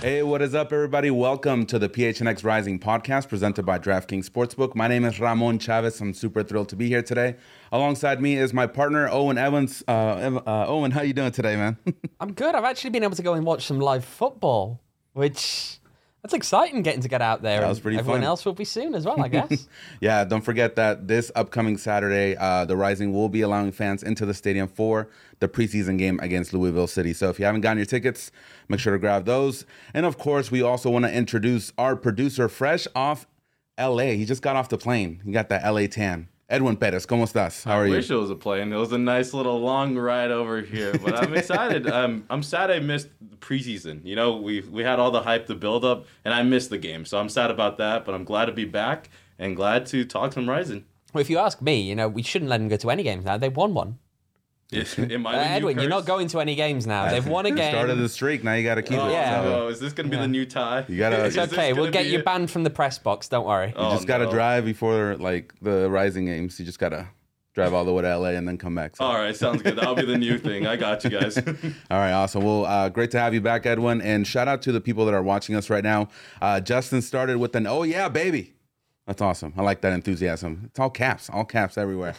Hey, what is up, everybody? Welcome to the PHNX Rising podcast presented by DraftKings Sportsbook. My name is Ramon Chavez. I'm super thrilled to be here today. Alongside me is my partner, Owen Evans. Owen, how you doing today, man? I'm good. I've actually been able to go and watch some live football, which that's exciting getting to get out there. That was pretty Everyone fun. else will be soon as well, I guess. Yeah, don't forget that this upcoming Saturday, the Rising will be allowing fans into the stadium for the preseason game against Louisville City. So if you haven't gotten your tickets, make sure to grab those. And of course, we also want to introduce our producer, fresh off LA. He just got off the plane. He got that LA tan. Edwin Perez, ¿cómo estás? How are you? I wish it was a plane. It was a nice little long ride over here, but I'm excited. I'm sad I missed the preseason. You know, we had all the hype, the build up, and I missed the game. So I'm sad about that, but I'm glad to be back and glad to talk some Rising. Well, if you ask me, you know, we shouldn't let them go to any games now. They've won one. Edwin, you're not going to any games now. They've won a game. Started the streak. Now you got to keep it. Yeah. Oh, is this going to be the new tie? You gotta. It's okay. We'll get you banned from the press box. Don't worry. You just got to drive before like the Rising games. You just got to drive all the way to LA and then come back. So. All right, sounds good. That'll be the new thing. I got you guys. All right, awesome. Well, great to have you back, Edwin. And shout out to the people that are watching us right now. Justin started with an "Oh yeah, baby." That's awesome. I like that enthusiasm. It's all caps everywhere.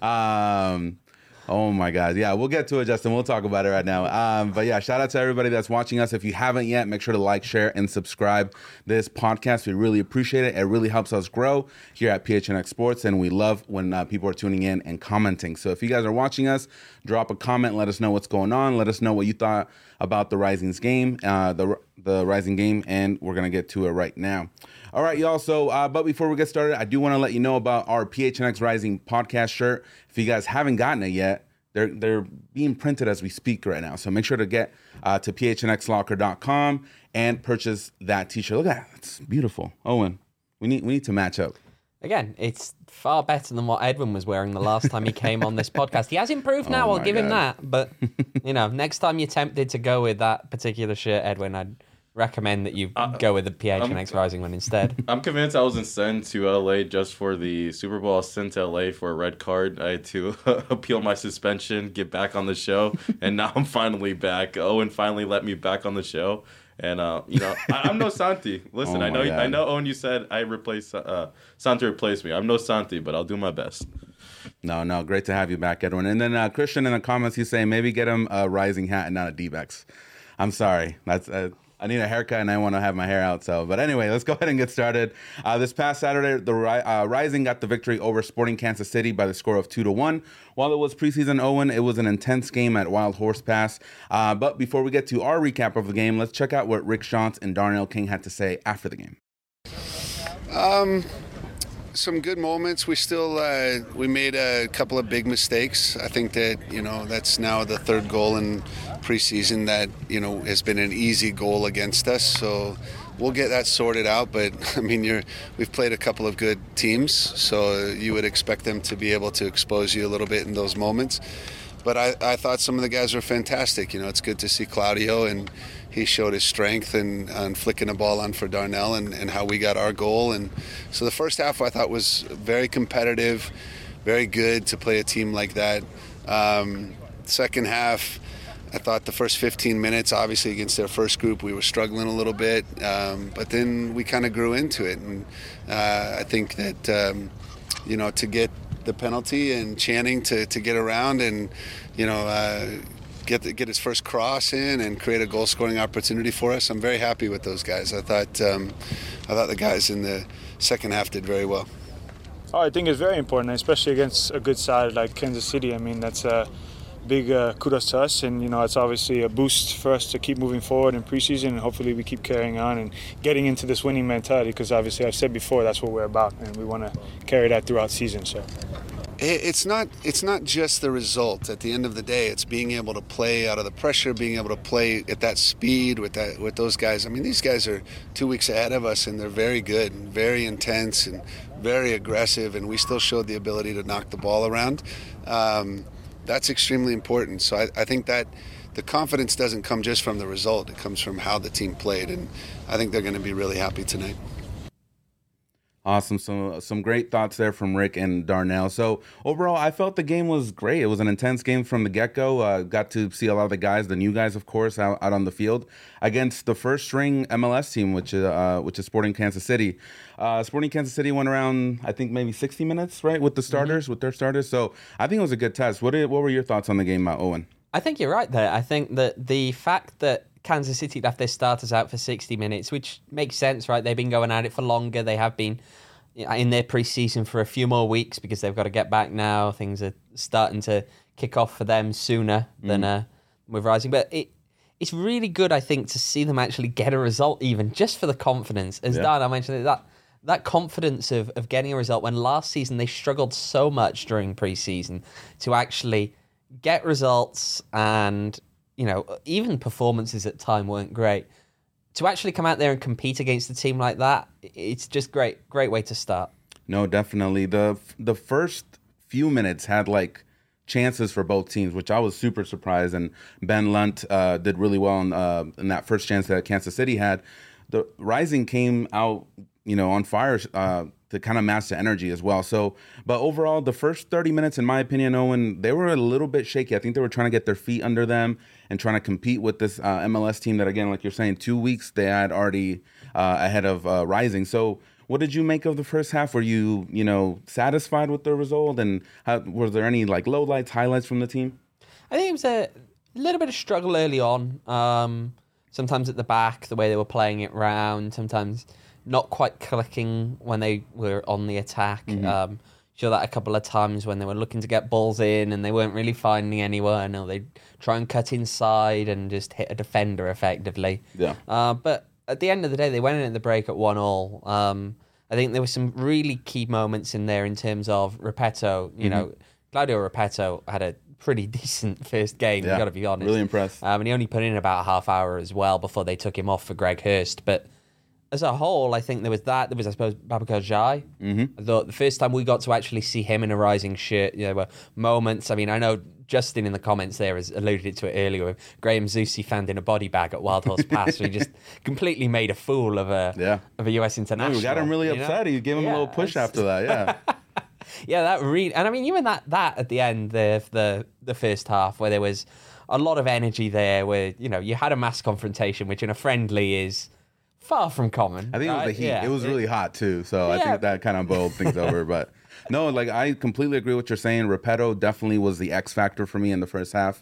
Oh my God. Yeah, we'll get to it, Justin. We'll talk about it right now. But yeah, shout out to everybody that's watching us. If you haven't yet, make sure to like, share, and subscribe this podcast. We really appreciate it. It really helps us grow here at PHNX Sports, and we love when people are tuning in and commenting. So if you guys are watching us, drop a comment. Let us know what's going on. Let us know what you thought about the Rising's game, the Rising game, and we're going to get to it right now. All right, y'all. So, but before we get started, I do want to let you know about our PHNX Rising podcast shirt. If you guys haven't gotten it yet, they're being printed as we speak right now. So make sure to get to phnxlocker.com and purchase that t-shirt. Look at that. It's beautiful. Owen, we need to match up. Again, it's far better than what Edwin was wearing the last time he came on this podcast. He has improved now. I'll give him that. But, you know, next time you're tempted to go with that particular shirt, Edwin, I'd recommend that you go with the PHNX Rising one instead. I'm convinced I wasn't sent to LA just for the Super Bowl. I was sent to LA for a red card. I had to appeal my suspension, get back on the show, and now I'm finally back. Owen finally let me back on the show. And, you know, I'm no Santi. Listen, I know, Owen, you said I replaced Santi replaced me. I'm no Santi, but I'll do my best. No, great to have you back, Edwin. And then Christian in the comments, he's saying maybe get him a Rising hat and not a D-backs. I'm sorry. That's I need a haircut and I want to have my hair out. So, but anyway, let's go ahead and get started. This past Saturday, the Rising got the victory over Sporting Kansas City by the score of 2-1. While it was preseason, Owen, it was an intense game at Wild Horse Pass. But before we get to our recap of the game, let's check out what Rick Schantz and Darnell King had to say after the game. Some good moments. We still we made a couple of big mistakes. I think that, you know, that's now the third goal in preseason that, you know, has been an easy goal against us. So we'll get that sorted out. But I mean, we've played a couple of good teams, so you would expect them to be able to expose you a little bit in those moments. But I thought some of the guys were fantastic. You know, it's good to see Claudio, and he showed his strength and flicking the ball on for Darnell and how we got our goal. And so the first half I thought was very competitive, very good to play a team like that. Second half, I thought the first 15 minutes, obviously against their first group, we were struggling a little bit. But then we kind of grew into it. And I think that, you know, to get the penalty and Channing to get around and, you know, get his first cross in and create a goal-scoring opportunity for us. I'm very happy with those guys. I thought the guys in the second half did very well. Oh, I think it's very important, especially against a good side like Kansas City. I mean, that's a big kudos to us, and, you know, it's obviously a boost for us to keep moving forward in preseason, and hopefully we keep carrying on and getting into this winning mentality, because obviously I've said before that's what we're about, and we want to carry that throughout season. So. It's not just the result. At the end of the day, it's being able to play out of the pressure, being able to play at that speed with those guys. I mean, these guys are 2 weeks ahead of us, and they're very good and very intense and very aggressive, and we still showed the ability to knock the ball around. That's extremely important. So I think that the confidence doesn't come just from the result. It comes from how the team played, and I think they're going to be really happy tonight. Awesome. So some great thoughts there from Rick and Darnell. So overall, I felt the game was great. It was an intense game from the get-go. Got to see a lot of the guys, the new guys, of course, out on the field against the first-string MLS team, which is Sporting Kansas City. Sporting Kansas City went around, I think, maybe 60 minutes, right, with the starters, with their starters. So I think it was a good test. What were your thoughts on the game, Owen? I think you're right there. I think that the fact that Kansas City left their starters out for 60 minutes, which makes sense, right? They've been going at it for longer. They have been in their preseason for a few more weeks because they've got to get back now. Things are starting to kick off for them sooner than with Rising. But it's really good, I think, to see them actually get a result, even just for the confidence. As Dan, I mentioned, that confidence of getting a result when last season they struggled so much during preseason to actually get results and, even performances at time weren't great. To actually come out there and compete against a team like that, it's just great way to start. No, definitely. The first few minutes had chances for both teams, which I was super surprised. And Ben Lunt did really well in that first chance that Kansas City had. The Rising came out, on fire to kind of match the energy as well. So, but overall, the first 30 minutes, in my opinion, Owen, they were a little bit shaky. I think they were trying to get their feet under them and trying to compete with this MLS team that, again, like you're saying, 2 weeks they had already ahead of Rising. So what did you make of the first half? Were you, satisfied with the result? And were there any lowlights, highlights from the team? I think it was a little bit of struggle early on. Sometimes at the back, the way they were playing it round, sometimes not quite clicking when they were on the attack. Saw that a couple of times when they were looking to get balls in and they weren't really finding anyone, or they'd try and cut inside and just hit a defender effectively. Yeah. But at the end of the day, they went in at the break at 1-1. I think there were some really key moments in there in terms of Repetto. Claudio Repetto had a pretty decent first game, you've got to be honest. Really impressed. And he only put in about a half hour as well before they took him off for Greg Hurst. But as a whole, I think there was, I suppose, Babacar Jai. I thought the first time we got to actually see him in a Rising shirt, there were moments. I mean, I know Justin in the comments there has alluded to it earlier with Graham Zusi found in a body bag at Wild Horse Pass. So he just completely made a fool of a US international. We got him really upset. He gave him a little push after that, Yeah, that really, and I mean, even that at the end, the first half, where there was a lot of energy there, where you had a mass confrontation, which in a friendly is far from common. I think it was the heat. It was really hot too, so I think that kind of boiled things over. But no, I completely agree with what you're saying. Repetto definitely was the X factor for me in the first half,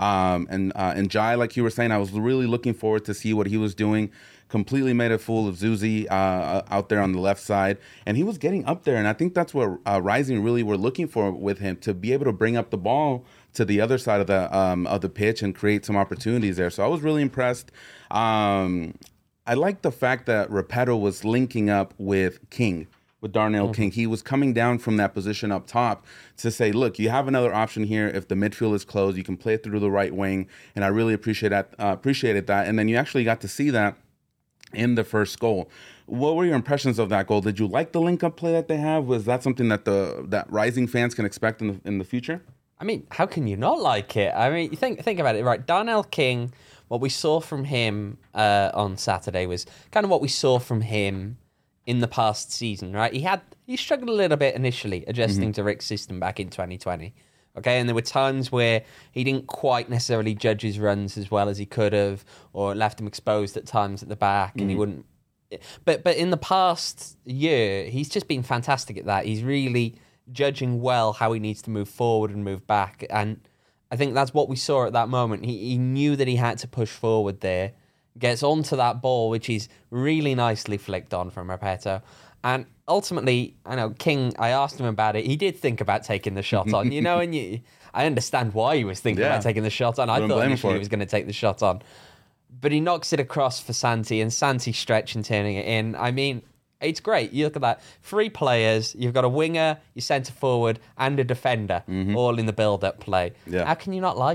and Jai, like you were saying, I was really looking forward to see what he was doing. Completely made a fool of Zusi out there on the left side, and he was getting up there, and I think that's what Rising really were looking for with him, to be able to bring up the ball to the other side of the pitch and create some opportunities there. So I was really impressed. I like the fact that Repetto was linking up with King, with Darnell King. He was coming down from that position up top to say, look, you have another option here. If the midfield is closed, you can play it through the right wing, and I really appreciated that. And then you actually got to see that in the first goal. What were your impressions of that goal? Did you like the link-up play that they have? Was that something that that Rising fans can expect in the future? I mean, how can you not like it? I mean, you think about it, right? Darnell King, what we saw from him on Saturday was kind of what we saw from him in the past season, right? He struggled a little bit initially adjusting to Rick's system back in 2020. Okay, and there were times where he didn't quite necessarily judge his runs as well as he could have, or left him exposed at times at the back, and he wouldn't. But in the past year, he's just been fantastic at that. He's really judging well how he needs to move forward and move back, and I think that's what we saw at that moment. He knew that he had to push forward there, gets onto that ball, which is really nicely flicked on from Repetto. And ultimately, I know King, I asked him about it. He did think about taking the shot on, and I understand why he was thinking about taking the shot on. I thought initially he was going to take the shot on. But he knocks it across for Santi, and Santi stretching, turning it in. I mean, it's great. You look at that. 3 players. You've got a winger, your centre forward, and a defender, all in the build-up play. Yeah. How can you not like it?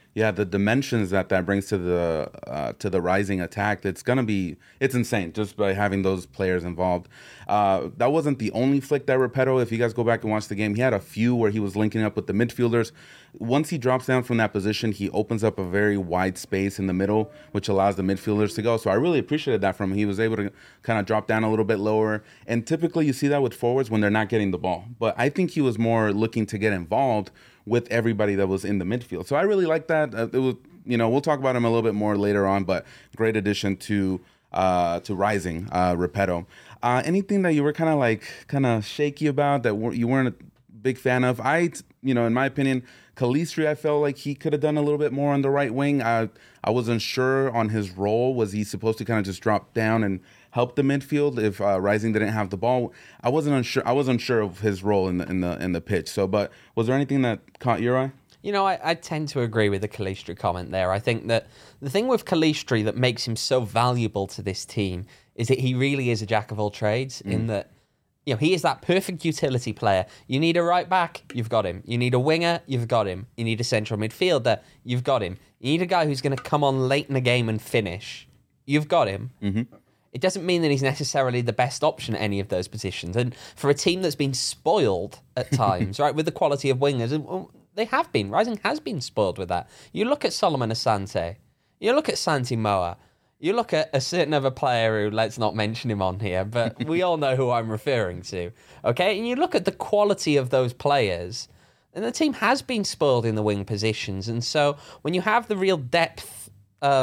Yeah, the dimensions that brings to the Rising attack, it's insane just by having those players involved. That wasn't the only flick that Repetto, if you guys go back and watch the game, he had a few where he was linking up with the midfielders. Once he drops down from that position, he opens up a very wide space in the middle, which allows the midfielders to go. So I really appreciated that from him. He was able to kind of drop down a little bit lower. And typically you see that with forwards when they're not getting the ball. But I think he was more looking to get involved with everybody that was in the midfield. So I really like that. It was, we'll talk about him a little bit more later on, but great addition to Rising, Repetto. Anything that you were kind of shaky about that you weren't a big fan of? In my opinion, Calistri, I felt like he could have done a little bit more on the right wing. I wasn't sure on his role. Was he supposed to kind of just drop down and help the midfield if Rising didn't have the ball? I wasn't unsure of his role in the pitch. So, but was there anything that caught your eye? I tend to agree with the Calistri comment there. I think that the thing with Calistri that makes him so valuable to this team is that he really is a jack of all trades in that, he is that perfect utility player. You need a right back, you've got him. You need a winger, you've got him. You need a central midfielder, you've got him. You need a guy who's going to come on late in the game and finish. You've got him. Mm-hmm. It doesn't mean that he's necessarily the best option at any of those positions. And for a team that's been spoiled at times, right, with the quality of wingers, they have been. Rising has been spoiled with that. You look at Solomon Asante. You look at Santi Moa. You look at a certain other player who, let's not mention him on here, but we all know who I'm referring to. Okay? And you look at the quality of those players, and the team has been spoiled in the wing positions. And so when you have the real depth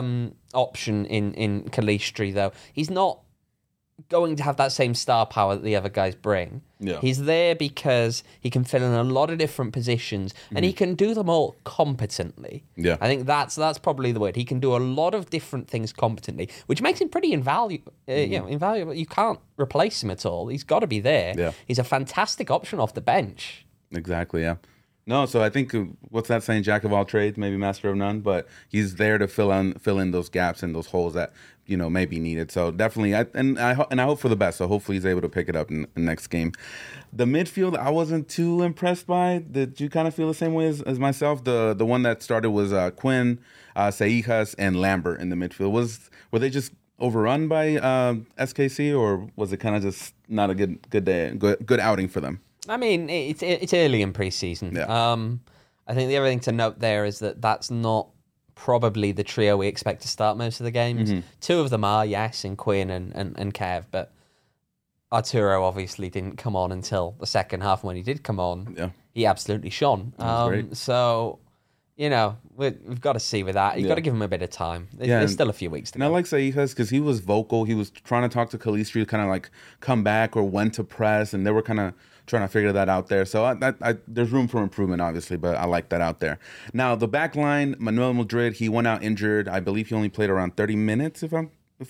option in Calistri, though, he's not going to have that same star power that the other guys bring. Yeah. He's there because he can fill in a lot of different positions and he can do them all competently. Yeah. I think that's probably the word. He can do a lot of different things competently, which makes him pretty invaluable. Invaluable. You can't replace him at all. He's got to be there. Yeah. He's a fantastic option off the bench. Exactly, yeah. No, so I think what's that saying? Jack of all trades, maybe master of none. But he's there to fill in those gaps and those holes that may be needed. So definitely, I hope for the best. So hopefully he's able to pick it up in the next game. The midfield, I wasn't too impressed by. Did you kind of feel the same way as myself? The one that started was Quinn, Seijas, and Lambert in the midfield. Were they just overrun by SKC, or was it kind of just not a good day, good outing for them? I mean, it's early in preseason. Yeah. I think the other thing to note there is that that's not probably the trio we expect to start most of the games. Mm-hmm. Two of them are, yes, in Quinn and Kev, but Arturo obviously didn't come on until the second half. When he did come on, he absolutely shone. So, we've got to see with that. You've got to give him a bit of time. There's still a few weeks to go. And I like Seijas because he was vocal. He was trying to talk to Calistri to kind of like come back or when to press, and they were kind of trying to figure that out there. So there's room for improvement, obviously, but I like that out there. Now, the back line, Manuel Madrid, he went out injured. I believe he only played around 30 minutes, if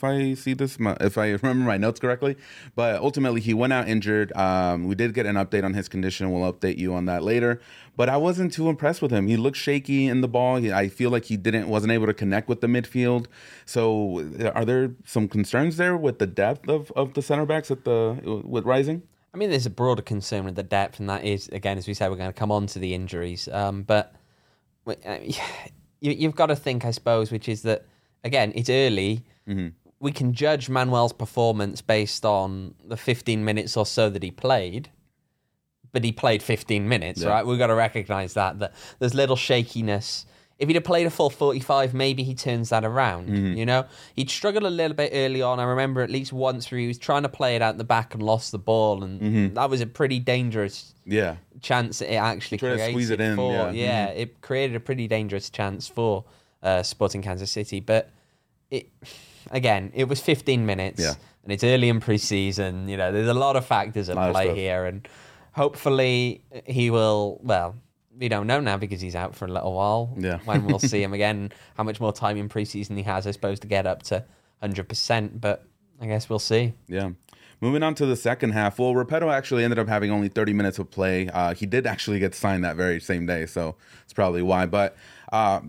I remember my notes correctly. But ultimately, he went out injured. We did get an update on his condition. We'll update you on that later. But I wasn't too impressed with him. He looked shaky in the ball. I feel like he wasn't able to connect with the midfield. So are there some concerns there with the depth of the center backs with Rising? I mean, there's a broader concern with the depth, and that is, again, as we said, we're going to come on to the injuries. But you've got to think, I suppose, which is that, again, it's early. Mm-hmm. We can judge Manuel's performance based on the 15 minutes or so that he played, but he played 15 minutes, right? We've got to recognise that there's little shakiness. If he'd have played a full 45, maybe he turns that around, He'd struggled a little bit early on. I remember at least once where he was trying to play it out the back and lost the ball, and that was a pretty dangerous chance that it actually created. To squeeze it in, it created a pretty dangerous chance for Sporting Kansas City. But it was 15 minutes, and it's early in pre-season. There's a lot of factors at play here, and hopefully he will, we don't know now because he's out for a little while. Yeah. When we'll see him again, how much more time in preseason he has, I suppose, to get up to 100%. But I guess we'll see. Yeah. Moving on to the second half. Well, Repetto actually ended up having only 30 minutes of play. He did actually get signed that very same day, so it's probably why. But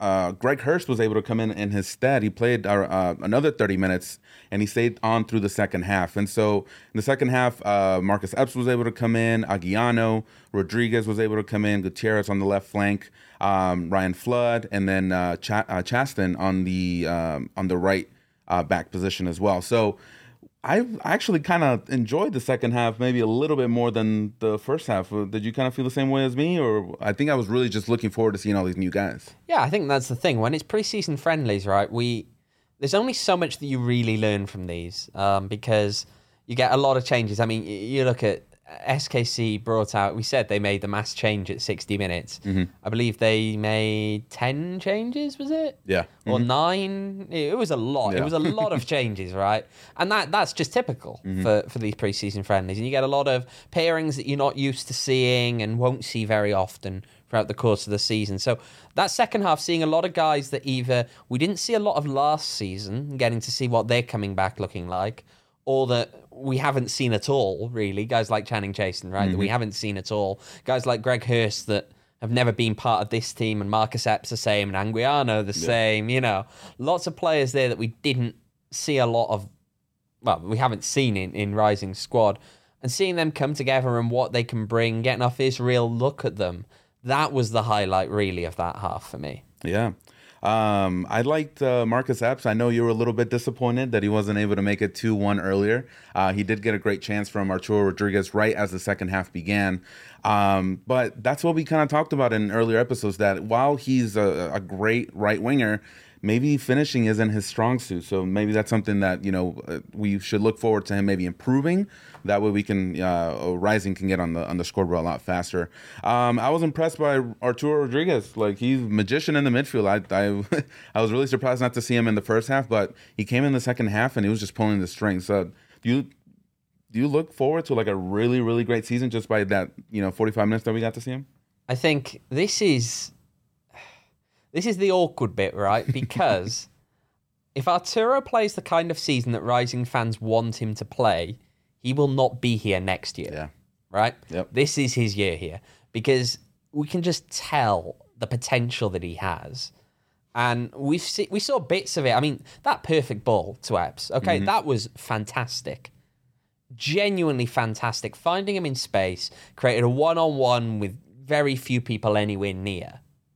Greg Hurst was able to come in his stead. He played another 30 minutes, and he stayed on through the second half. And so in the second half, Marcus Epps was able to come in, Aguiano, Rodriguez was able to come in, Gutierrez on the left flank, Ryan Flood, and then Chaston on the right back position as well. So I actually kind of enjoyed the second half maybe a little bit more than the first half. Did you kind of feel the same way as me? Or I think I was really just looking forward to seeing all these new guys. Yeah, I think that's the thing. When it's preseason friendlies, right, there's only so much that you really learn from these because you get a lot of changes. I mean, you look at SKC brought out, we said they made the mass change at 60 minutes. Mm-hmm. I believe they made 10 changes, was it? Yeah. Or 9? It was a lot. Yeah. It was a lot of changes, right? And that's just typical for these preseason friendlies. And you get a lot of pairings that you're not used to seeing and won't see very often throughout the course of the season. So that second half, seeing a lot of guys that either we didn't see a lot of last season, getting to see what they're coming back looking like, or that we haven't seen at all, really. Guys like Channing Chasen, right, that we haven't seen at all. Guys like Greg Hurst that have never been part of this team, and Marcus Epps the same, and Anguiano the same, you know. Lots of players there that we didn't see a lot of, well, we haven't seen in Rising Squad. And seeing them come together and what they can bring, getting our first real look at them, that was the highlight, really, of that half for me. Yeah. I liked Marcus Epps. I know you were a little bit disappointed that he wasn't able to make it 2-1 earlier. He did get a great chance from Arturo Rodriguez right as the second half began. But that's what we kind of talked about in earlier episodes, that while he's a great right winger, maybe finishing isn't his strong suit. So maybe that's something that, we should look forward to him maybe improving. That way we can, Rising can get on the scoreboard a lot faster. I was impressed by Arturo Rodriguez. Like, he's a magician in the midfield. I was really surprised not to see him in the first half, but he came in the second half and he was just pulling the strings. So do you look forward to like a really, really great season just by that, 45 minutes that we got to see him? I think this is the awkward bit, right? Because if Arturo plays the kind of season that Rising fans want him to play, he will not be here next year. Yeah. Right? Yep. This is his year here. Because we can just tell the potential that he has. And we saw bits of it. I mean, that perfect ball to Epps, okay, that was fantastic. Genuinely fantastic. Finding him in space, created a one-on-one with very few people anywhere near.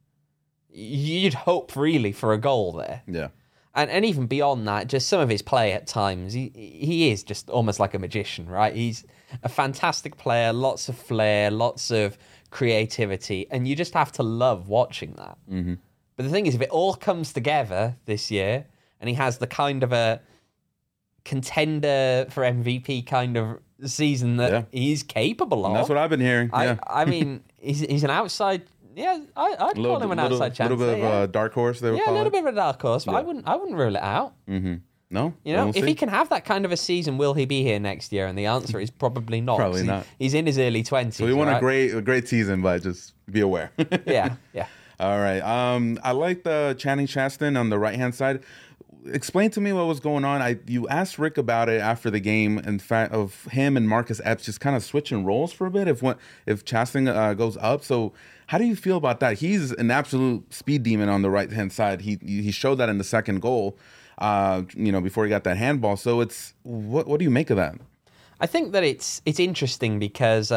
You'd hope, really, for a goal there. Yeah. And even beyond that, just some of his play at times, he is just almost like a magician, right? He's a fantastic player, lots of flair, lots of creativity, and you just have to love watching that. Mm-hmm. But the thing is, if it all comes together this year, and he has the kind of a contender for MVP kind of season that he's capable of. And that's what I've been hearing. I mean, he's an outside... Yeah, I'd call him an outside chance. A little bit of a dark horse, they would call it. Yeah, a little bit of a dark horse, but I wouldn't rule it out. Mm-hmm. No? If he can have that kind of a season, will he be here next year? And the answer is probably not. Probably not. He's in his early 20s. So we want a great season, but just be aware. Yeah. All right. I like the Channing Chaston on the right-hand side. Explain to me what was going on. You asked Rick about it after the game, in fact, of him and Marcus Epps just kind of switching roles for a bit if Chaston goes up. So how do you feel about that? He's an absolute speed demon on the right-hand side. He showed that in the second goal, before he got that handball. So it's what do you make of that? I think that it's interesting because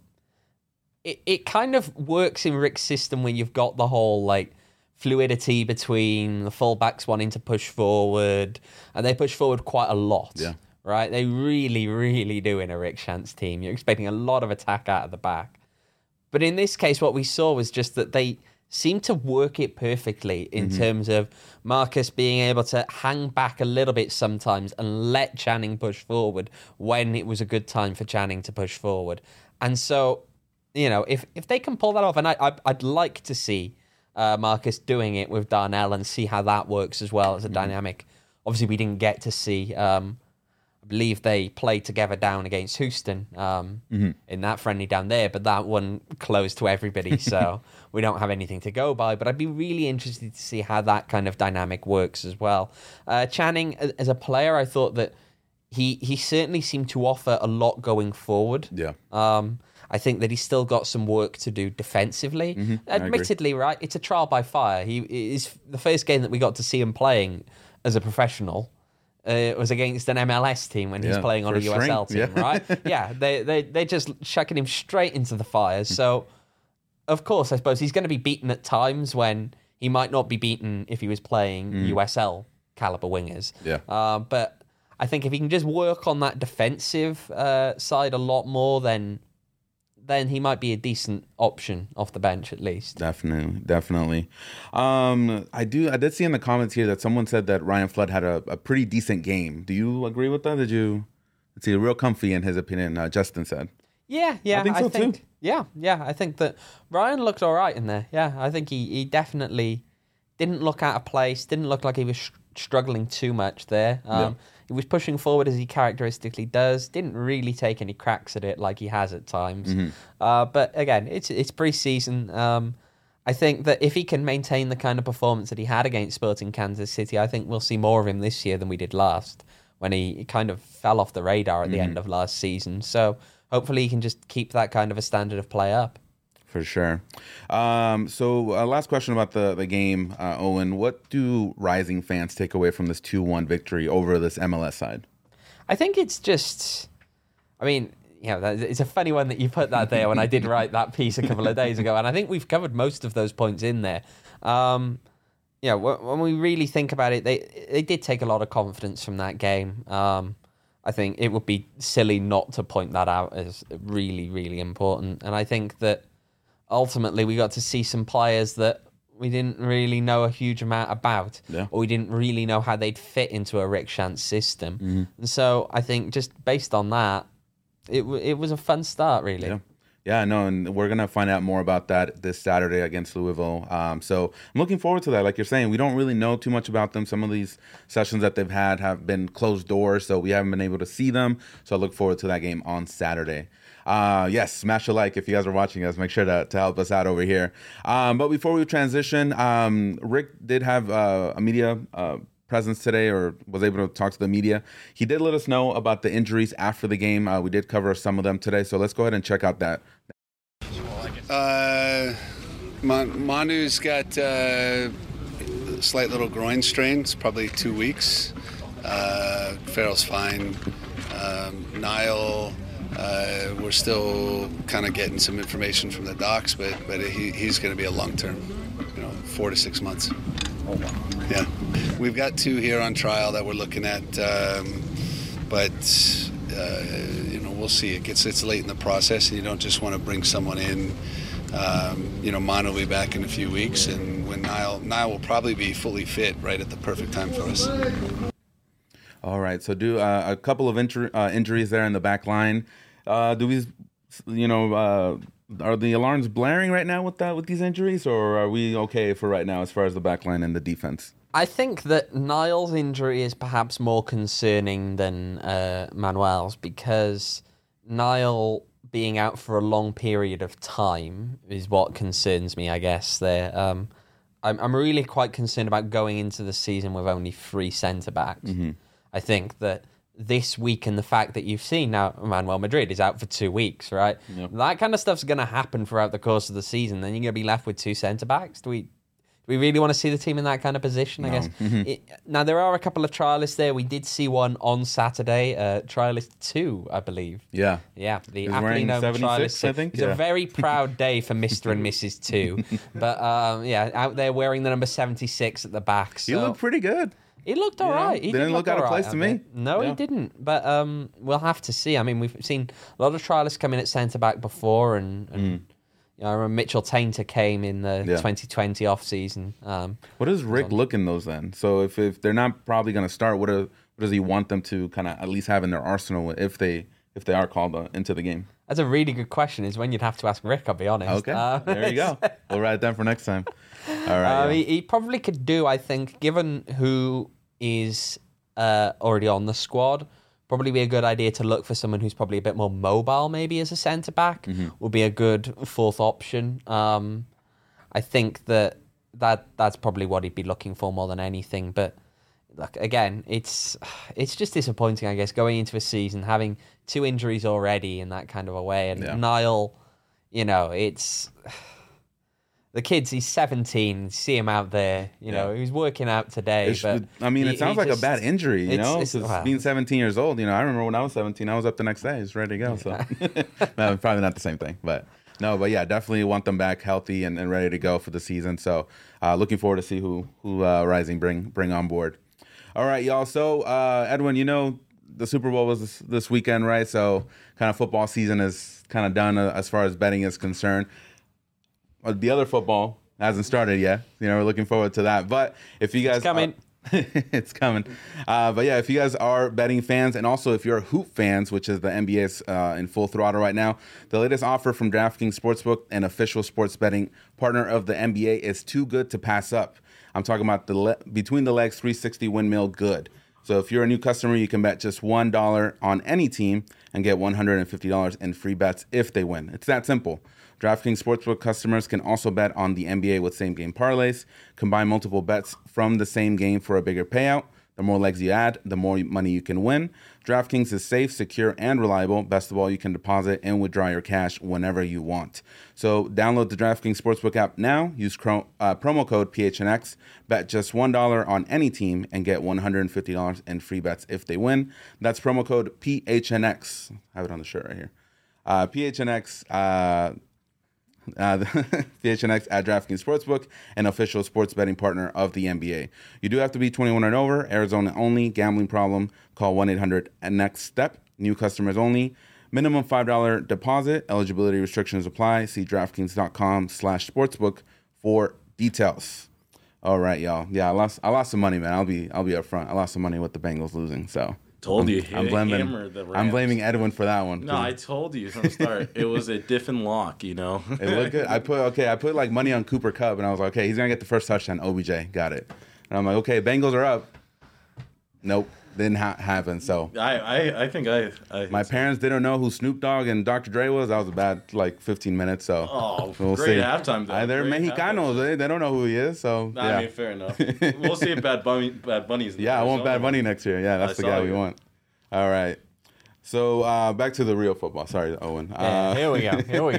it kind of works in Rick's system when you've got the whole like fluidity between the fullbacks wanting to push forward, and they push forward quite a lot. Yeah. Right? They really, really do in a Rick Shantz team. You're expecting a lot of attack out of the back. But in this case, what we saw was just that they seemed to work it perfectly in terms of Marcus being able to hang back a little bit sometimes and let Channing push forward when it was a good time for Channing to push forward. And so, if they can pull that off, and I'd like to see Marcus doing it with Darnell and see how that works as well as a dynamic. Obviously, we didn't get to see... I believe they played together down against Houston in that friendly down there, but that one closed to everybody, so we don't have anything to go by. But I'd be really interested to see how that kind of dynamic works as well. Channing, as a player, I thought that he certainly seemed to offer a lot going forward. Yeah. I think that he's still got some work to do defensively. Admittedly, right, it's a trial by fire. He is the first game that we got to see him playing as a professional. Was against an MLS team when he's playing on a USL team, right? Yeah, they're just chucking him straight into the fire. So, of course, I suppose he's going to be beaten at times when he might not be beaten if he was playing USL caliber wingers. Yeah. But I think if he can just work on that defensive side a lot more, then he might be a decent option off the bench at least. Definitely. I did see in the comments here that someone said that Ryan Flood had a pretty decent game. Do you agree with that? Let's see, real comfy in his opinion, Justin said. Yeah. I think so too. Yeah. I think that Ryan looked all right in there. Yeah, I think he definitely didn't look out of place, didn't look like he was struggling too much there. He was pushing forward as he characteristically does. Didn't really take any cracks at it like he has at times. But again, it's pre-season. I think that if he can maintain the kind of performance that he had against Sporting Kansas City, I think we'll see more of him this year than we did last, when he kind of fell off the radar at the end of last season. So hopefully he can just keep that kind of a standard of play up. For sure. So last question about the game, Owen. What do Rising fans take away from this 2-1 victory over this MLS side? I think it's just, I mean, it's a funny one that you put that there when I did write that piece a couple of days ago, and I think we've covered most of those points in there. When we really think about it, they did take a lot of confidence from that game. I think it would be silly not to point that out as really, really important. And I think that ultimately we got to see some players that we didn't really know a huge amount about, or we didn't really know how they'd fit into a Rick Schantz system. And so I think just based on that, it was a fun start, really. Yeah, no, and we're going to find out more about that this Saturday against Louisville. So I'm looking forward to that. Like you're saying, we don't really know too much about them. Some of these sessions that they've had have been closed doors, so we haven't been able to see them. So I look forward to that game on Saturday. Yes, smash a like if you guys are watching us. Make sure to help us out over here. But before we transition, Rick did have a media presence today, or was able to talk to the media. He did let us know about the injuries after the game. We did cover some of them today, so let's go ahead and check out that. Manu's got a slight little groin strain. It's probably 2 weeks. Farrell's fine. Niall, we're still kind of getting some information from the docs, but he's going to be a long-term, 4 to 6 months. Oh, wow. Yeah. We've got 2 here on trial that we're looking at, but we'll see. It's late in the process, and you don't just want to bring someone in. Manu will be back in a few weeks, and when Niall will probably be fully fit right at the perfect time for us. All right, so do a couple of injuries there in the back line. Are the alarms blaring right now with these injuries, or are we okay for right now as far as the back line and the defense? I think that Niall's injury is perhaps more concerning than Manuel's, because Niall being out for a long period of time is what concerns me, I guess. There, I'm really quite concerned about going into the season with only 3 centre-backs. I think that this week, and the fact that you've seen now Manuel Madrid is out for 2 weeks, right? Yep. That kind of stuff's going to happen throughout the course of the season. Then you're going to be left with 2 centre-backs. Do we really want to see the team in that kind of position, I guess? Now, there are a couple of trialists there. We did see one on Saturday, trialist 2, I believe. Yeah. The aptly known trialist. I think. It's a very proud day for Mr. and Mrs. 2. But, out there wearing the number 76 at the back. So. You look pretty good. He looked all right. He didn't look out of place to me. No, he didn't. But we'll have to see. I mean, we've seen a lot of trialists come in at centre-back before, and I remember Mitchell Tainter came in the 2020 off-season. What does Rick look in those then? So if they're not probably going to start, what does he want them to kind of at least have in their arsenal if they are called into the game? That's a really good question. Is when you'd have to ask Rick, I'll be honest. Okay, there you go. We'll write it down for next time. All right. He probably could do, I think, given who is already on the squad, probably be a good idea to look for someone who's probably a bit more mobile, maybe as a centre-back. Would be a good 4th option. I think that's probably what he'd be looking for more than anything. But look, again, it's just disappointing, I guess, going into a season, having 2 injuries already in that kind of a way. And Niall, you know, it's the kids. He's 17. See him out there. You know, he was working out today. But it sounds like a bad injury. You know, well, being 17 years old. You know, I remember when I was 17, I was up the next day, just ready to go. So no, probably not the same thing, but. No, but yeah, definitely want them back healthy and ready to go for the season. So, looking forward to see who Rising bring on board. All right, y'all. So, Edwin, you know the Super Bowl was this weekend, right? So, kind of football season is kind of done as far as betting is concerned. The other football hasn't started yet. You know, we're looking forward to that. But if you guys it's coming. It's coming. But yeah, if you guys are betting fans, and also if you're Hoop fans, which is the NBA's in full throttle right now, the latest offer from DraftKings Sportsbook, an official sports betting partner of the NBA, is too good to pass up. I'm talking about the between the legs 360 windmill good. So if you're a new customer, you can bet just $1 on any team and get $150 in free bets if they win. It's that simple. DraftKings Sportsbook customers can also bet on the NBA with same-game parlays. Combine multiple bets from the same game for a bigger payout. The more legs you add, the more money you can win. DraftKings is safe, secure, and reliable. Best of all, you can deposit and withdraw your cash whenever you want. So download the DraftKings Sportsbook app now. Use promo code PHNX. Bet just $1 on any team and get $150 in free bets if they win. That's promo code PHNX. I have it on the shirt right here. PHNX. PHNX at DraftKings Sportsbook, an official sports betting partner of the NBA. You do have to be 21 and over, Arizona only, gambling problem, call 1-800-NEXT-STEP, new customers only, minimum $5 deposit, eligibility restrictions apply, see DraftKings.com/sportsbook for details. All right, y'all. Yeah, I lost some money, man. I'll be upfront. I lost some money with the Bengals losing, so. Told you. I'm blaming Edwin for that one. No, I told you from the start. It was a diff and lock, you know. It looked good. I put like money on Cooper Kupp, and I was like, okay, he's gonna get the first touchdown. OBJ got it. And I'm like, okay, Bengals are up. Nope, didn't happen. So I think my parents didn't know who Snoop Dogg and Dr. Dre was. That was a bad 15 minutes. So we'll great see. Halftime though. They're Mexicanos. They don't know who he is. So yeah. I mean, fair enough. We'll see if Bad Bunny's. I want Bad Bunny next year. Yeah, that's the guy we want. All right. So back to the real football. Sorry, Owen. Here we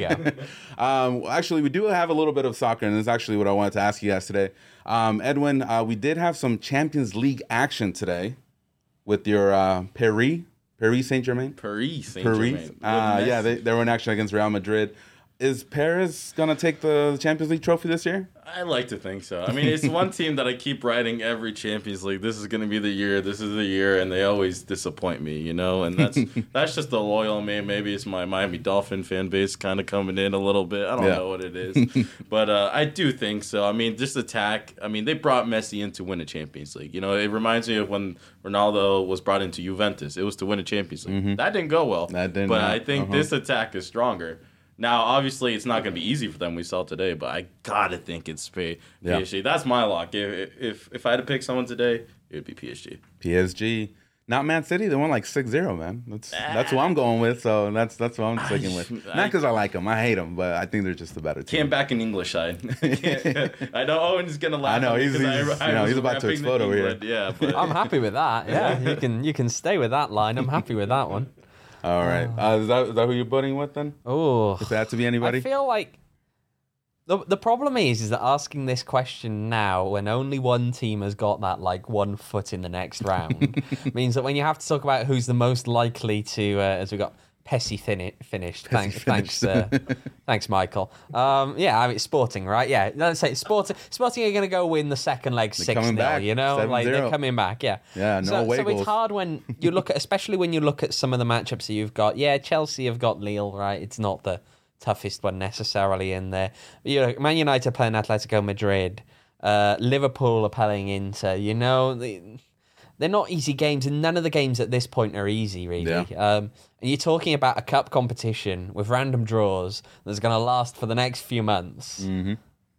go. Actually, we do have a little bit of soccer, and this is actually what I wanted to ask you guys today. Edwin, we did have some Champions League action today with your Paris Saint-Germain. Paris Saint-Germain. Yeah, they were in action against Real Madrid. Is Paris going to take the Champions League trophy this year? I like to think so. I mean, it's one team that I keep writing every Champions League. This is going to be the year. This is the year, and they always disappoint me, you know. And that's just the loyal me. Maybe it's my Miami Dolphin fan base kind of coming in a little bit. I don't know what it is, but I do think so. I mean, just attack. I mean, they brought Messi in to win a Champions League. You know, it reminds me of when Ronaldo was brought into Juventus. It was to win a Champions League. Mm-hmm. That didn't go well. But I think this attack is stronger. Now, obviously, it's not going to be easy for them. We saw today, but I gotta think it's PSG. Yeah. That's my lock. If I had to pick someone today, it would be PSG. PSG, not Man City. They won like 6-0, man. That's who I'm going with. So that's what I'm sticking with. Not because I like them. I hate them, but I think they're just the better team. Can't back an English side. I know Owen's gonna laugh. I know he's about to explode over here. Yeah, but I'm happy with that. Yeah, you can stay with that line. I'm happy with that one. All right. Is that who you're putting with then? Oh, if it had to be anybody, I feel like the problem is that asking this question now, when only one team has got that 1 foot in the next round, means that when you have to talk about who's the most likely to, as we got Pessi finished. Thanks, Michael. I mean, Sporting, right? Yeah, let's say Sporting are going to go win the second leg 6-0. You know, 7-0. They're coming back. Yeah. Yeah. So goals. it's hard when you look at, especially when you look at some of the matchups that you've got. Yeah, Chelsea have got Lille, right? It's not the toughest one necessarily in there. You know, Man United playing Atletico Madrid. Liverpool are playing Inter. You know, they're not easy games, and none of the games at this point are easy, really. Yeah. And you're talking about a cup competition with random draws that's going to last for the next few months. Mm-hmm.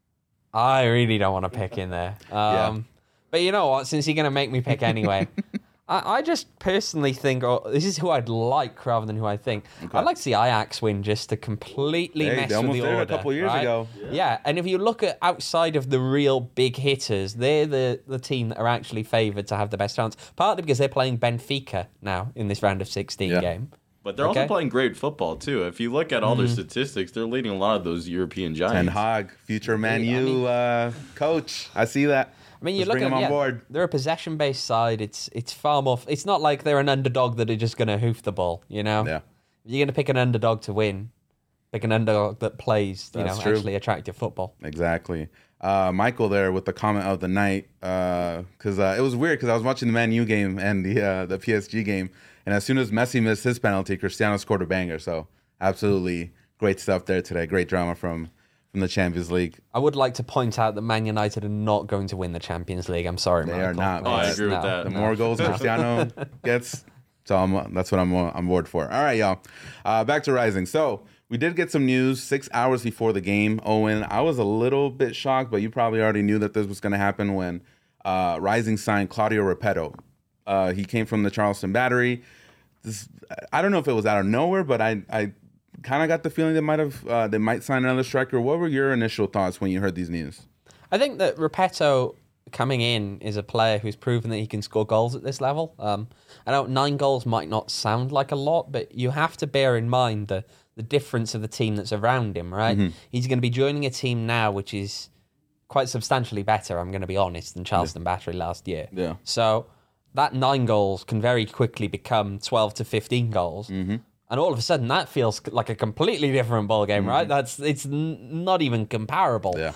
I really don't want to pick in there. But you know what? Since you're going to make me pick anyway, I just personally think, this is who I'd like rather than who I think. Okay. I'd like to see Ajax win just to completely mess with the order. A couple years ago. Yeah, and if you look at outside of the real big hitters, they're the team that are actually favoured to have the best chance, partly because they're playing Benfica now in this round of 16 game. But they're also playing great football, too. If you look at all their statistics, they're leading a lot of those European giants. Ten Hag, future Man U coach. I see that. I mean, you look at them on board. They're a possession-based side. It's far more. It's not like they're an underdog that are just going to hoof the ball. You know, yeah. If you're going to pick an underdog to win, pick an underdog that plays. Actually attractive football. Exactly. Michael there with the comment of the night, because it was weird because I was watching the Man U game and the PSG game, and as soon as Messi missed his penalty, Cristiano scored a banger. So absolutely great stuff there today. Great drama from the Champions League. I would like to point out that Man United are not going to win the Champions League. I'm sorry, they Michael. are not. I agree with that. The more goals Cristiano gets, so that's what I'm on board for. All right, y'all. Back to Rising. So we did get some news 6 hours before the game. Owen, I was a little bit shocked, but you probably already knew that this was going to happen when Rising signed Claudio Repetto. He came from the Charleston Battery. I don't know if it was out of nowhere, but I kind of got the feeling they might sign another striker. What were your initial thoughts when you heard these news? I think that Repetto coming in is a player who's proven that he can score goals at this level. I know 9 goals might not sound like a lot, but you have to bear in mind the difference of the team that's around him, right? Mm-hmm. He's going to be joining a team now which is quite substantially better, I'm going to be honest, than Charleston Battery last year. Yeah. So that 9 goals can very quickly become 12 to 15 goals. Mm-hmm. And all of a sudden, that feels like a completely different ballgame, right? It's not even comparable. Yeah.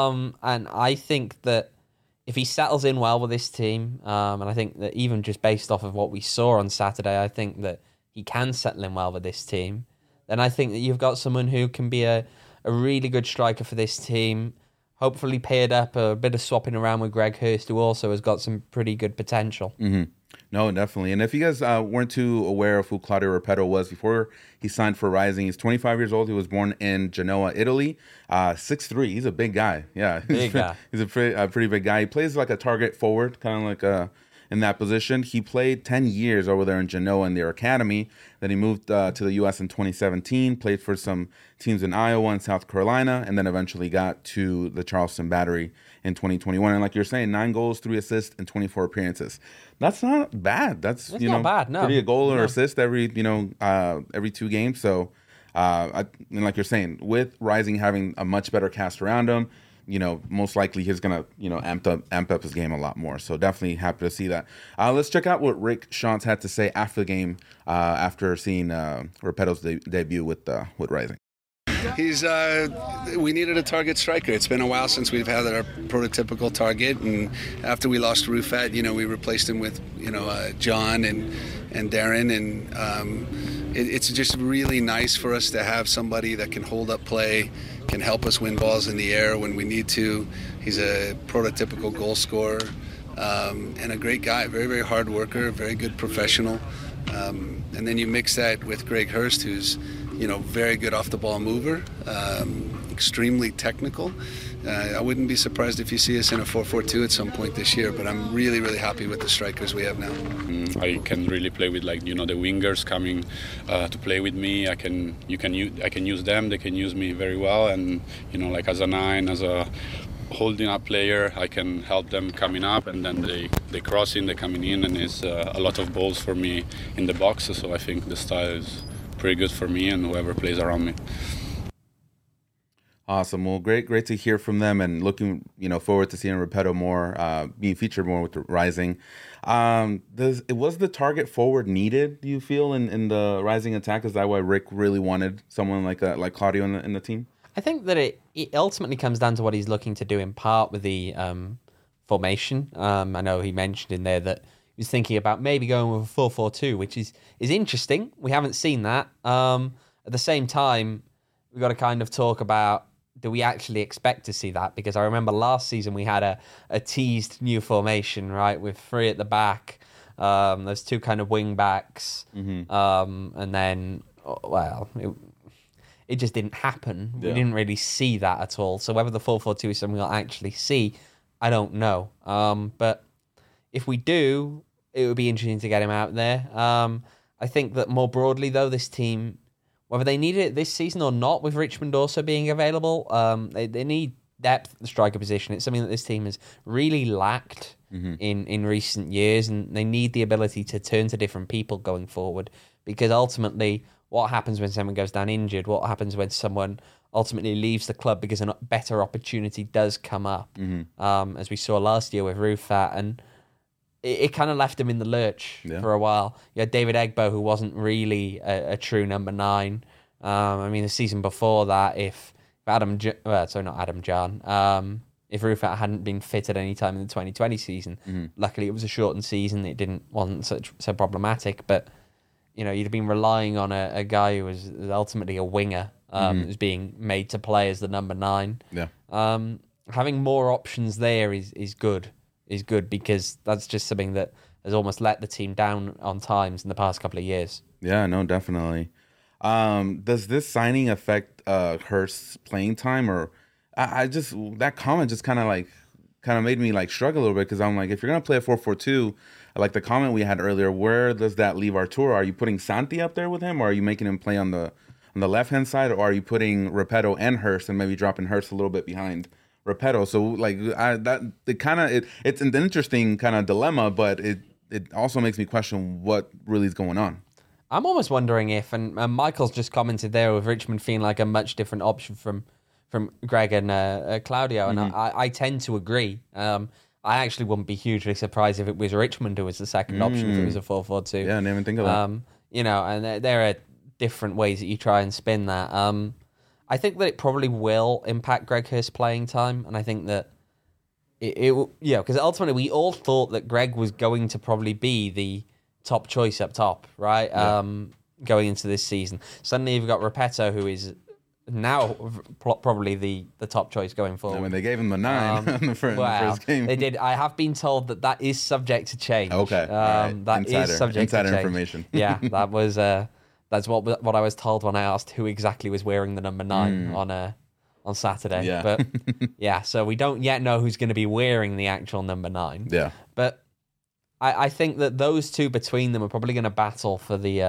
And I think that if he settles in well with this team, and I think that even just based off of what we saw on Saturday, I think that he can settle in well with this team. Then I think that you've got someone who can be a really good striker for this team. Hopefully paired up a bit of swapping around with Greg Hurst, who also has got some pretty good potential. Mm-hmm. No, definitely. And if you guys weren't too aware of who Claudio Repetto was before he signed for Rising, he's 25 years old. He was born in Genoa, Italy. 6'3". He's a big guy. Yeah, big guy. He's a pretty big guy. He plays like a target forward, kind of like in that position. He played 10 years over there in Genoa in their academy. Then he moved to the U.S. in 2017, played for some teams in Iowa and South Carolina, and then eventually got to the Charleston Battery in 2021. And like you're saying, 9 goals, 3 assists, and 24 appearances. That's not bad. That's not bad, no. Pretty a goal or assist every 2 games. So, and like you're saying, with Rising having a much better cast around him, most likely he's gonna, amp up his game a lot more. So definitely happy to see that. Let's check out what Rick Schantz had to say after the game, after seeing Repetto's debut with Rising. We needed a target striker. It's been a while since we've had our prototypical target, and after we lost Rufat, we replaced him with John and Darren, and it's just really nice for us to have somebody that can hold up play, can help us win balls in the air when we need to. He's a prototypical goal scorer, and a great guy, very, very hard worker, very good professional. And then you mix that with Greg Hurst, who's very good off the ball mover, extremely technical. I wouldn't be surprised if you see us in a 4-4-2 at some point this year, but I'm really, really happy with the strikers we have now. I can really play with the wingers coming to play with me. I can use them. They can use me very well, and as a 9, as a holding up player, I can help them coming up, and then they crossing, they coming in, and it's a lot of balls for me in the box. So I think the style is pretty good for me and whoever plays around me. Awesome. Well, great to hear from them, and looking forward to seeing Repetto more, being featured more with the Rising. Was the target forward needed, do you feel, in the Rising attack? Is that why Rick really wanted someone like Claudio in the team? I think that it ultimately comes down to what he's looking to do in part with the formation. I know he mentioned in there that he was thinking about maybe going with a 4-4-2, which is interesting. We haven't seen that. At the same time, we've got to kind of talk about, do we actually expect to see that? Because I remember last season we had a teased new formation, right, with 3 at the back. There's 2 kind of wing backs. Mm-hmm. And then, it just didn't happen. Yeah. We didn't really see that at all. So whether the 4-4-2 is something we'll actually see, I don't know. But if we do, it would be interesting to get him out there. I think that more broadly, though, this team, whether they need it this season or not, with Richmond also being available, they need depth at the striker position. It's something that this team has really lacked in recent years, and they need the ability to turn to different people going forward, because ultimately what happens when someone goes down injured, what happens when someone ultimately leaves the club because a better opportunity does come up, as we saw last year with Rufat, and it kind of left him in the lurch for a while. You had David Egbo, who wasn't really a true number 9. I mean, the season before that, if Rufat hadn't been fit at any time in the 2020 season, luckily it was a shortened season. It wasn't so problematic, but you'd have been relying on a guy who was ultimately a winger, who's being made to play as the number 9. Yeah. Having more options there is good. Is good because that's just something that has almost let the team down on times in the past couple of years. Yeah, no, definitely. Does this signing affect Hurst's playing time, or I just that comment just kind of made me like struggle a little bit, because I'm like, if you're gonna play a 4-4-2, like the comment we had earlier, where does that leave Arturo? Are you putting Santi up there with him, or are you making him play on the left hand side, or are you putting Repetto and Hurst and maybe dropping Hurst a little bit behind Repetto? So like it's an interesting kind of dilemma, but it also makes me question what really is going on. I'm almost wondering if, and Michael's just commented there, with Richmond feeling like a much different option from Greg and Claudio, and I tend to agree. I actually wouldn't be hugely surprised if it was Richmond who was the second option if it was a 4-4-2. Yeah, I didn't even think of that. And there are different ways that you try and spin that. I think that it probably will impact Greg Hurst's playing time, and I think that because ultimately we all thought that Greg was going to probably be the top choice up top, right? Yeah. Going into this season. Suddenly you've got Repetto, who is now probably the top choice going forward. I mean, they gave him the 9 in the first game. They did. I have been told that is subject to change. Okay. Right. That is subject to change. Insider information. Yeah, that was... That's what I was told when I asked who exactly was wearing the number 9 on Saturday. Yeah. But yeah, so we don't yet know who's going to be wearing the actual number 9. Yeah. But I think that those two between them are probably going to battle for the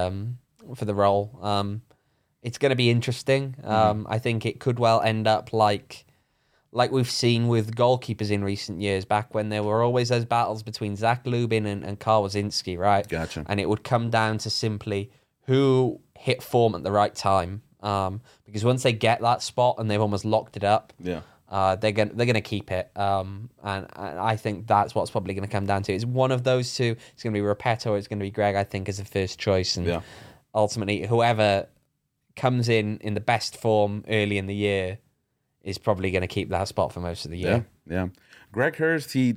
role. It's going to be interesting. I think it could well end up like we've seen with goalkeepers in recent years, back when there were always those battles between Zach Lubin and Karl Wazinski, right? Gotcha. And it would come down to simply who hit form at the right time. Because once they get that spot and they've almost locked it up, they're gonna keep it. And I think that's what's probably gonna come down to. It's one of those two. It's gonna be Repetto, or it's gonna be Greg, I think, as the first choice. And ultimately, whoever comes in the best form early in the year is probably gonna keep that spot for most of the year. Yeah. Greg Hurst, he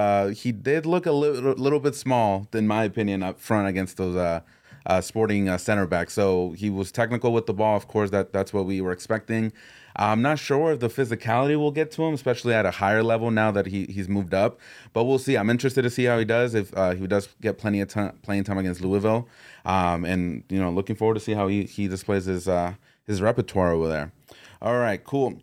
did look a little bit small, in my opinion, up front against those Sporting center back. So he was technical with the ball. Of course, that's what we were expecting. I'm not sure if the physicality will get to him, especially at a higher level now that he's moved up. But we'll see. I'm interested to see how he does, if he does get plenty of playing time against Louisville. And looking forward to see how he displays his repertoire over there. All right, cool.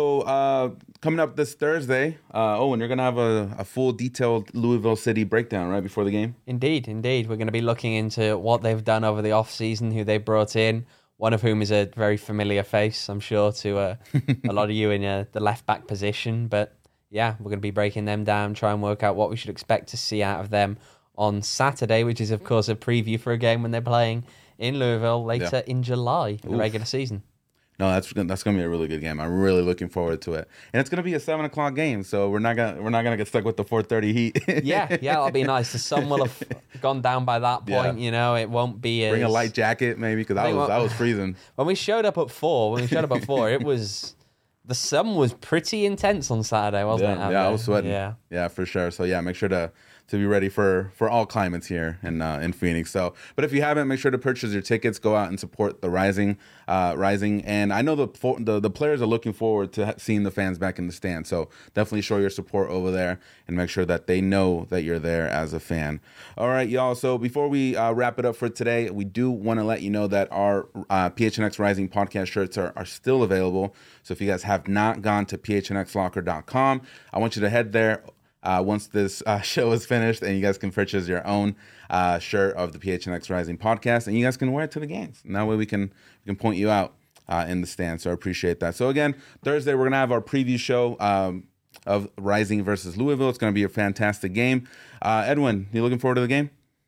So coming up this Thursday, Owen, you're going to have a full detailed Louisville City breakdown right before the game? Indeed. We're going to be looking into what they've done over the off-season, who they brought in, one of whom is a very familiar face, I'm sure, to a lot of you in the left-back position. But yeah, we're going to be breaking them down, try and work out what we should expect to see out of them on Saturday, which is, of course, a preview for a game when they're playing in Louisville later in July, the regular season. No, that's gonna be a really good game. I'm really looking forward to it, and it's gonna be a 7:00 game, so we're not gonna get stuck with the 4:30 heat. yeah, that'll be nice. The sun will have gone down by that point. Yeah. It won't be. Bring a light jacket, maybe, because I was freezing. When we showed up at 4, it was the sun was pretty intense on Saturday, wasn't it? Yeah, I was sweating. Yeah, for sure. So yeah, make sure to be ready for all climates here in Phoenix. So, but if you haven't, make sure to purchase your tickets. Go out and support the Rising. And I know the players are looking forward to seeing the fans back in the stand. So definitely show your support over there and make sure that they know that you're there as a fan. All right, y'all. So before we wrap it up for today, we do want to let you know that our PHNX Rising podcast shirts are still available. So if you guys have not gone to phnxlocker.com, I want you to head there. Once this show is finished, and you guys can purchase your own shirt of the PHNX Rising podcast, and you guys can wear it to the games. And that way we can point you out in the stand. So I appreciate that. So again, Thursday we're gonna have our preview show of Rising versus Louisville. It's gonna be a fantastic game. Edwin, you looking forward to the game?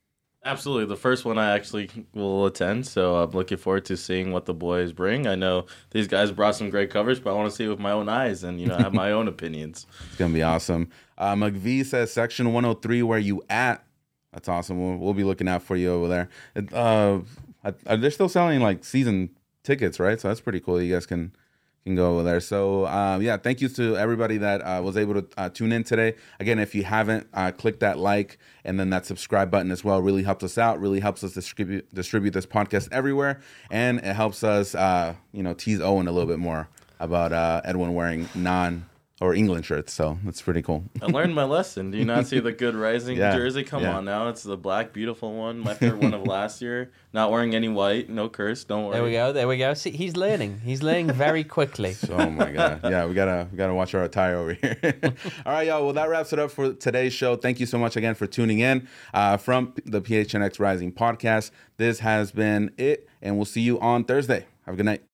Absolutely. The first one I actually will attend, so I'm looking forward to seeing what the boys bring. I know these guys brought some great coverage, but I want to see it with my own eyes and, have my own opinions. It's going to be awesome. McVee says, Section 103, where you at? That's awesome. We'll be looking out for you over there. They're still selling, like, season tickets, right? So that's pretty cool. You guys can go over there. So, thank you to everybody that was able to tune in today. Again, if you haven't, click that like and then that subscribe button as well. Really helps us out. Really helps us distribute this podcast everywhere. And it helps us, tease Owen a little bit more about Edwin wearing England shirts. So that's pretty cool. I learned my lesson. Do you not see the Good Rising jersey? Come on now. It's the black, beautiful one. My favorite one of last year. Not wearing any white. No curse. Don't worry. There we go. See, he's learning. He's learning very quickly. Oh, my God. Yeah, we gotta watch our attire over here. All right, y'all. Well, that wraps it up for today's show. Thank you so much again for tuning in from the PHNX Rising podcast. This has been it, and we'll see you on Thursday. Have a good night.